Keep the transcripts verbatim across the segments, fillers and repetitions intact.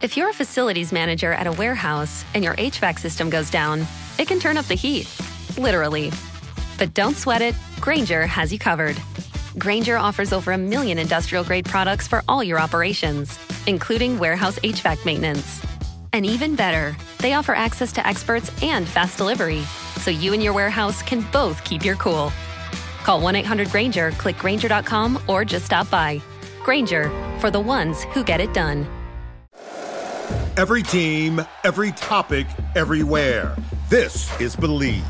If you're a facilities manager at a warehouse and your H V A C system goes down, it can turn up the heat, literally. But don't sweat it, Grainger has you covered. Grainger offers over a million industrial-grade products for all your operations, including warehouse H V A C maintenance. And even better, they offer access to experts and fast delivery, so you and your warehouse can both keep your cool. Call one eight hundred Grainger, click Grainger dot com, or just stop by. Grainger, for the ones who get it done. Every team, every topic, everywhere. This is Believe.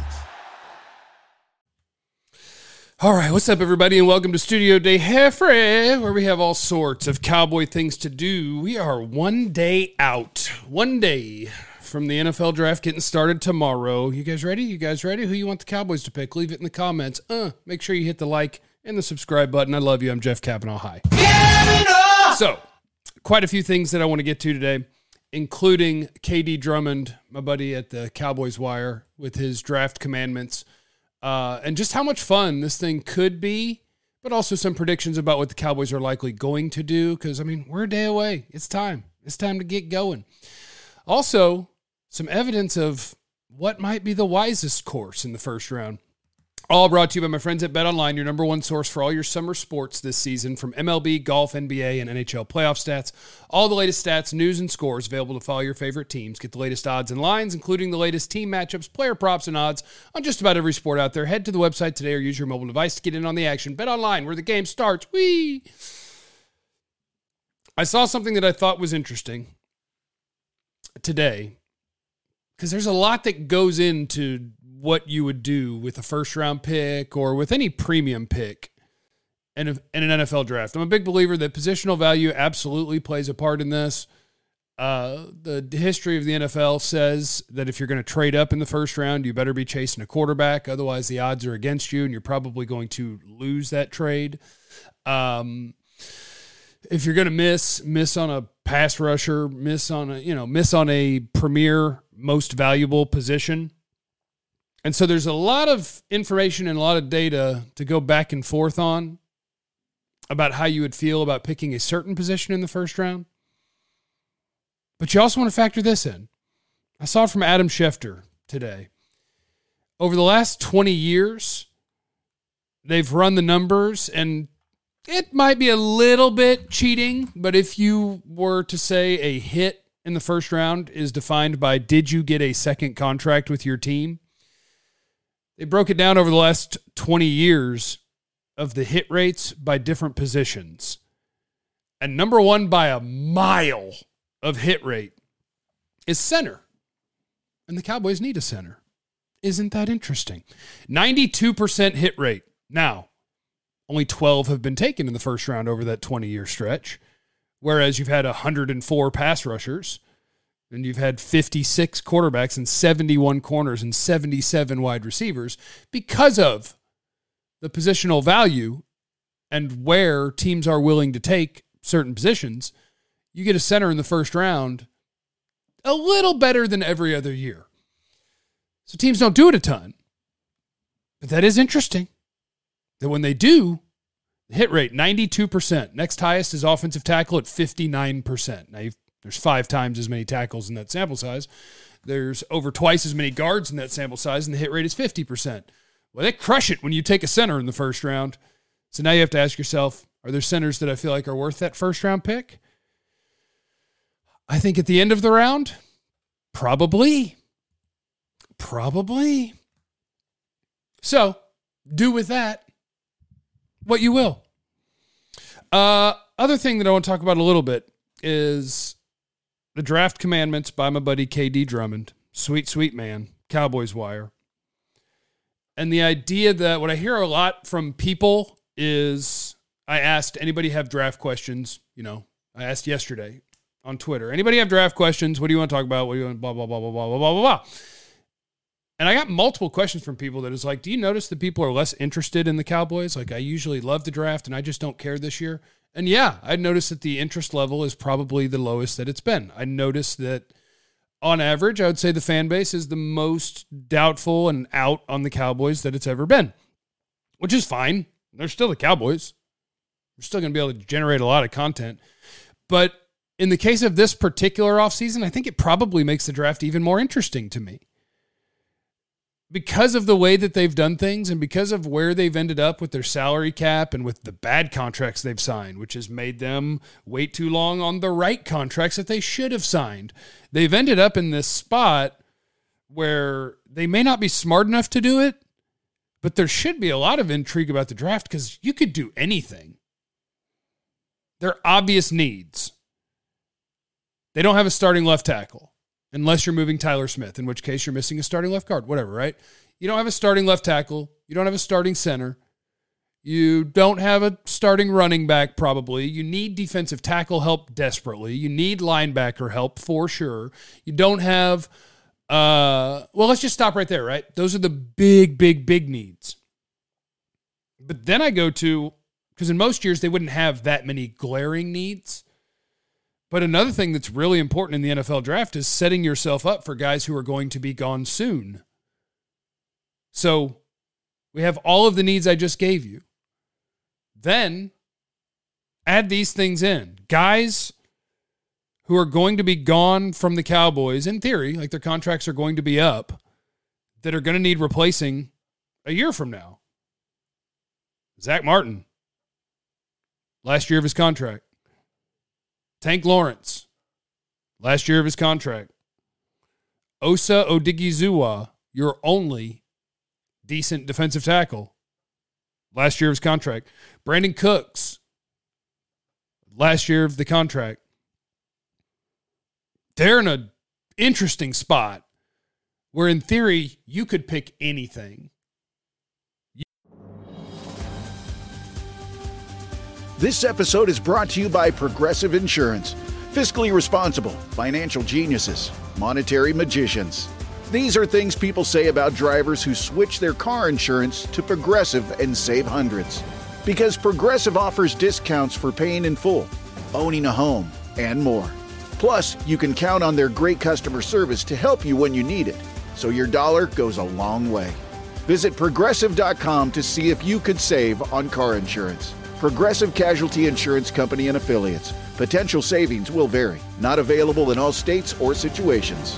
All right, what's up, everybody, and welcome to Studio De Jefre, where we have all sorts of cowboy things to do. We are one day out, one day from the N F L draft getting started tomorrow. You guys ready? You guys ready? Who you want the Cowboys to pick? Leave it in the comments. Uh, make sure you hit the like and the subscribe button. I love you. I'm Jeff Kavanaugh. Hi. So, quite a few things that I want to get to today, including K D Drummond, my buddy at the Cowboys Wire, with his draft commandments. Uh, and just how much fun this thing could be, but also some predictions about what the Cowboys are likely going to do. Because, I mean, we're a day away. It's time. It's time to get going. Also, some evidence of what might be the wisest course in the first round. All brought to you by my friends at BetOnline, your number one source for all your summer sports this season, from M L B, golf, N B A, and N H L playoff stats. All the latest stats, news, and scores available to follow your favorite teams. Get the latest odds and lines, including the latest team matchups, player props, and odds on just about every sport out there. Head to the website today or use your mobile device to get in on the action. BetOnline, where the game starts. Whee! I saw something that I thought was interesting today, because there's a lot that goes into what you would do with a first round pick or with any premium pick in, a, in an N F L draft. I'm a big believer that positional value absolutely plays a part in this. Uh, the history of the N F L says that if you're going to trade up in the first round, you better be chasing a quarterback. Otherwise, the odds are against you and you're probably going to lose that trade. Um, if you're going to miss, miss on a pass rusher, miss on a, you know, miss on a premier, most valuable position. And so there's a lot of information and a lot of data to go back and forth on about how you would feel about picking a certain position in the first round. But you also want to factor this in. I saw it from Adam Schefter today. Over the last twenty years, they've run the numbers, and it might be a little bit cheating, but if you were to say a hit in the first round is defined by, did you get a second contract with your team? They broke it down over the last twenty years of the hit rates by different positions. And number one by a mile of hit rate is center. And the Cowboys need a center. Isn't that interesting? ninety-two percent hit rate. Now, only twelve have been taken in the first round over that twenty-year stretch, whereas you've had one hundred four pass rushers. And you've had fifty-six quarterbacks and seventy-one corners and seventy-seven wide receivers because of the positional value and where teams are willing to take certain positions. You get a center in the first round a little better than every other year. So teams don't do it a ton. But that is interesting that when they do, the hit rate, ninety-two percent. Next highest is offensive tackle at fifty-nine percent. Now, you've There's five times as many tackles in that sample size. There's over twice as many guards in that sample size, and the hit rate is fifty percent. Well, they crush it when you take a center in the first round. So now you have to ask yourself, are there centers that I feel like are worth that first round pick? I think at the end of the round, probably. Probably. So do with that what you will. Uh, other thing that I want to talk about a little bit is the draft commandments by my buddy K D Drummond. Sweet, sweet man. Cowboys Wire. And the idea that what I hear a lot from people is, I asked, anybody have draft questions? You know, I asked yesterday on Twitter, anybody have draft questions? What do you want to talk about? What do you want? Blah, blah, blah, blah, blah, blah, blah, blah, blah. And I got multiple questions from people that is like, do you notice that people are less interested in the Cowboys? Like, I usually love the draft and I just don't care this year. And yeah, I noticed that the interest level is probably the lowest that it's been. I noticed that on average, I would say the fan base is the most doubtful and out on the Cowboys that it's ever been, which is fine. They're still the Cowboys. We're still going to be able to generate a lot of content. But in the case of this particular offseason, I think it probably makes the draft even more interesting to me. Because of the way that they've done things and because of where they've ended up with their salary cap and with the bad contracts they've signed, which has made them wait too long on the right contracts that they should have signed. They've ended up in this spot where they may not be smart enough to do it, but there should be a lot of intrigue about the draft because you could do anything. There are obvious needs. They don't have a starting left tackle. Unless you're moving Tyler Smith, in which case you're missing a starting left guard, whatever, right? You don't have a starting left tackle. You don't have a starting center. You don't have a starting running back, probably. You need defensive tackle help desperately. You need linebacker help for sure. You don't have, uh, well, let's just stop right there, right? Those are the big, big, big needs. But then I go to, because in most years they wouldn't have that many glaring needs. But another thing that's really important in the N F L draft is setting yourself up for guys who are going to be gone soon. So we have all of the needs I just gave you. Then add these things in. Guys who are going to be gone from the Cowboys, in theory, like their contracts are going to be up, that are going to need replacing a year from now. Zach Martin, last year of his contract. Tank Lawrence, last year of his contract. Osa Odigizua, your only decent defensive tackle, last year of his contract. Brandon Cooks, last year of the contract. They're in an interesting spot where, in theory, you could pick anything. This episode is brought to you by Progressive Insurance. Fiscally responsible, financial geniuses, monetary magicians. These are things people say about drivers who switch their car insurance to Progressive and save hundreds. Because Progressive offers discounts for paying in full, owning a home, and more. Plus, you can count on their great customer service to help you when you need it, so your dollar goes a long way. Visit Progressive dot com to see if you could save on car insurance. Progressive Casualty Insurance Company and Affiliates. Potential savings will vary. Not available in all states or situations.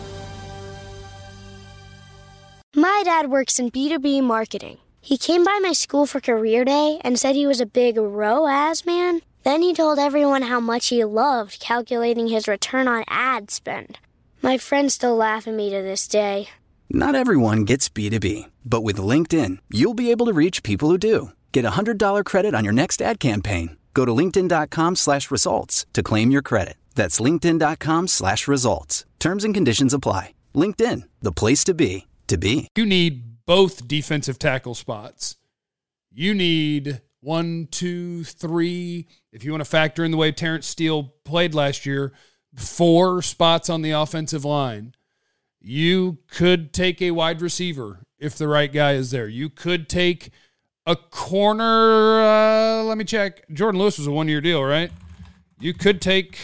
My dad works in B two B marketing. He came by my school for career day and said he was a big R O A S man. Then he told everyone how much he loved calculating his return on ad spend. My friends still laugh at me to this day. Not everyone gets B two B, but with LinkedIn, you'll be able to reach people who do. Get a one hundred dollars credit on your next ad campaign. Go to linkedin.com slash results to claim your credit. That's linkedin.com slash results. Terms and conditions apply. LinkedIn, the place to be, to be. You need both defensive tackle spots. You need one, two, three. If you want to factor in the way Terrence Steele played last year, four spots on the offensive line. You could take a wide receiver if the right guy is there. You could take a corner, uh, let me check. Jordan Lewis was a one-year deal, right? You could take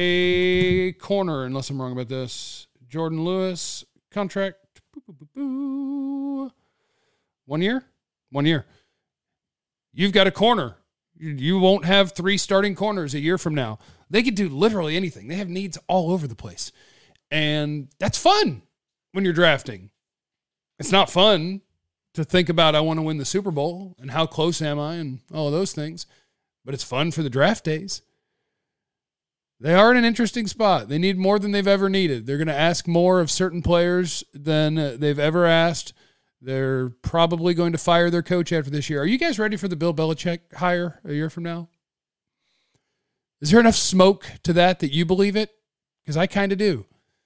a corner, unless I'm wrong about this. Jordan Lewis, contract. Boo, boo, boo, boo. One year? One year. You've got a corner. You, you won't have three starting corners a year from now. They could do literally anything. They have needs all over the place. And that's fun when you're drafting. It's not fun to think about, I want to win the Super Bowl and how close am I and all of those things. But it's fun for the draft days. They are in an interesting spot. They need more than they've ever needed. They're going to ask more of certain players than they've ever asked. They're probably going to fire their coach after this year. Are you guys ready for the Bill Belichick hire a year from now? Is there enough smoke to that that you believe it? Because I kind of do.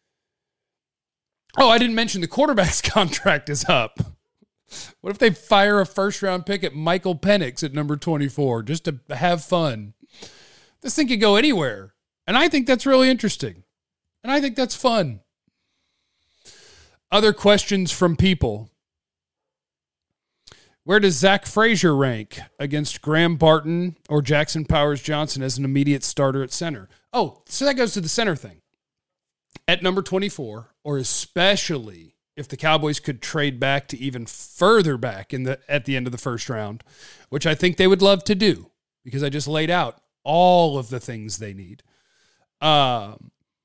Oh, I didn't mention the quarterback's contract is up. What if they fire a first-round pick at Michael Penix at number twenty-four just to have fun? This thing could go anywhere. And I think that's really interesting. And I think that's fun. Other questions from people. Where does Zach Frazier rank against Graham Barton or Jackson Powers Johnson as an immediate starter at center? Oh, so that goes to the center thing. At number twenty-four, or especially if the Cowboys could trade back to even further back in the at the end of the first round, which I think they would love to do because I just laid out all of the things they need. Uh,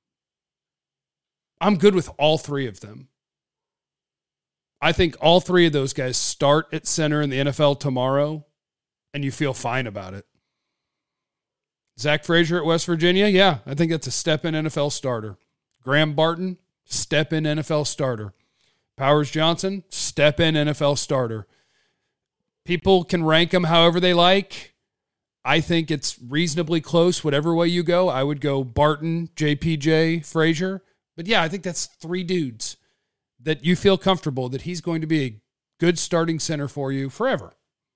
I'm good with all three of them. I think all three of those guys start at center in the N F L tomorrow, and you feel fine about it. Zach Frazier at West Virginia, yeah, I think that's a step-in N F L starter. Graham Barton, step-in N F L starter. Powers Johnson, step-in N F L starter. People can rank them however they like. I think it's reasonably close, whatever way you go. I would go Barton, J P J, Frazier. But yeah, I think that's three dudes that you feel comfortable that he's going to be a good starting center for you forever.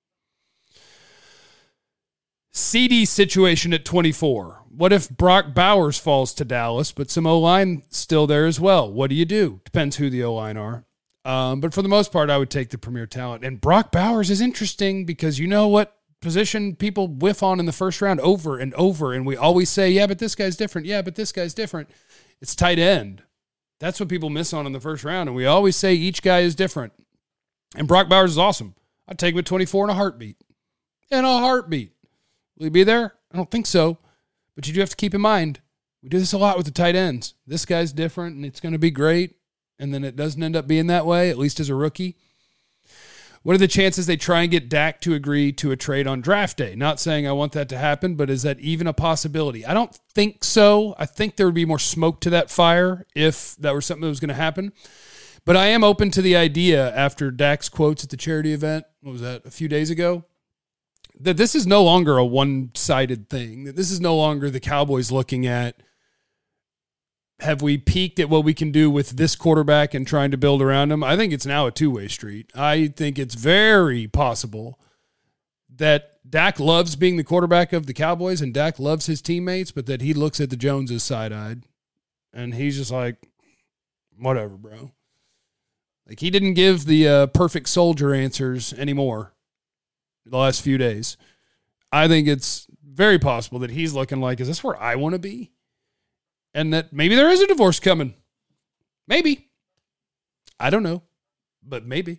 C D situation at twenty-four. What if Brock Bowers falls to Dallas, but some O-line still there as well? What do you do? Depends who the O-line are. Um, but for the most part, I would take the premier talent. And Brock Bowers is interesting because you know what position people whiff on in the first round over and over, and we always say, yeah, but this guy's different. Yeah, but this guy's different. It's tight end. That's what people miss on in the first round, and we always say each guy is different. And Brock Bowers is awesome. I'd take him at twenty-four in a heartbeat. In a heartbeat. Will he be there? I don't think so. But you do have to keep in mind, we do this a lot with the tight ends. This guy's different, and it's going to be great, and then it doesn't end up being that way, at least as a rookie. What are the chances they try and get Dak to agree to a trade on draft day? Not saying I want that to happen, but is that even a possibility? I don't think so. I think there would be more smoke to that fire if that were something that was going to happen. But I am open to the idea after Dak's quotes at the charity event, what was that, a few days ago, that this is no longer a one-sided thing, that this is no longer the Cowboys looking at, have we peaked at what we can do with this quarterback and trying to build around him? I think it's now a two-way street. I think it's very possible that Dak loves being the quarterback of the Cowboys and Dak loves his teammates, but that he looks at the Joneses side-eyed and he's just like, whatever, bro. Like, he didn't give the uh, perfect soldier answers anymore the last few days. I think it's very possible that he's looking like, is this where I want to be? And that maybe there is a divorce coming. Maybe. I don't know, but maybe.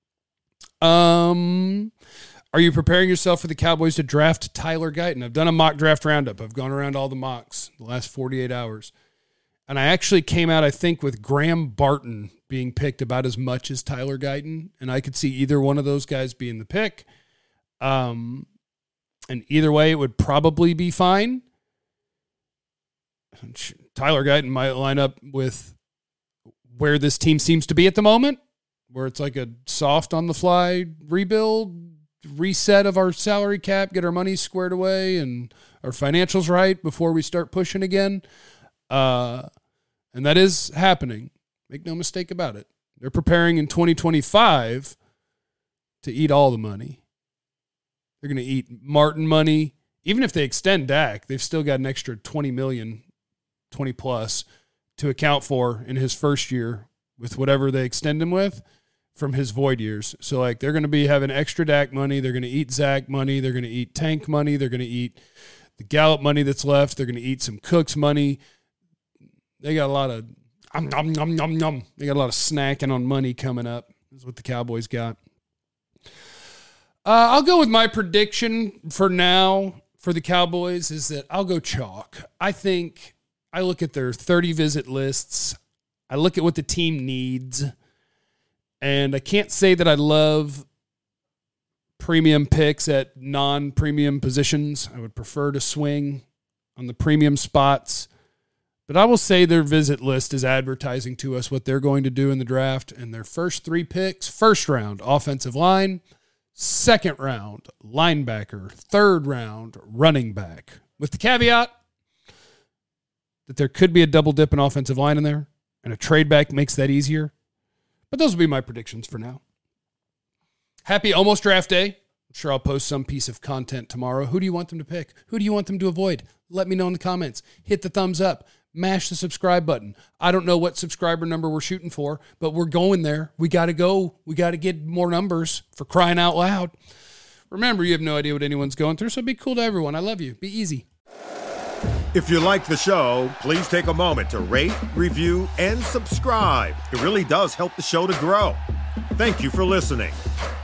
Um, are you preparing yourself for the Cowboys to draft Tyler Guyton? I've done a mock draft roundup. I've gone around all the mocks the last forty-eight hours. And I actually came out, I think, with Graham Barton being picked about as much as Tyler Guyton. And I could see either one of those guys being the pick. Um, and either way, it would probably be fine. Tyler Guyton might line up with where this team seems to be at the moment, where it's like a soft on the fly rebuild, reset of our salary cap, get our money squared away and our financials right before we start pushing again. Uh, and that is happening. Make no mistake about it. They're preparing in twenty twenty-five to eat all the money. They're going to eat Martin money. Even if they extend Dak, they've still got an extra twenty million dollars, twenty plus to account for in his first year with whatever they extend him with from his void years. So, like, they're going to be having extra Dak money. They're going to eat Zach money. They're going to eat Tank money. They're going to eat the Gallup money that's left. They're going to eat some Cooks money. They got a lot of um, nom, nom, nom, nom. They got a lot of snacking on money coming up. That's what the Cowboys got. Uh, I'll go with my prediction for now for the Cowboys is that I'll go chalk. I think I look at their thirty visit lists. I look at what the team needs. And I can't say that I love premium picks at non-premium positions. I would prefer to swing on the premium spots. But I will say their visit list is advertising to us what they're going to do in the draft. And their first three picks, first round, offensive line, second round, linebacker, third round, running back. With the caveat that there could be a double dip in offensive line in there, and a trade back makes that easier. But those will be my predictions for now. Happy almost draft day. I'm sure I'll post some piece of content tomorrow. Who do you want them to pick? Who do you want them to avoid? Let me know in the comments. Hit the thumbs up. Mash the subscribe button. I don't know what subscriber number we're shooting for, but we're going there. We got to go. We got to get more numbers, for crying out loud. Remember, you have no idea what anyone's going through, so be cool to everyone. I love you. Be easy. If you like the show, please take a moment to rate, review, and subscribe. It really does help the show to grow. Thank you for listening.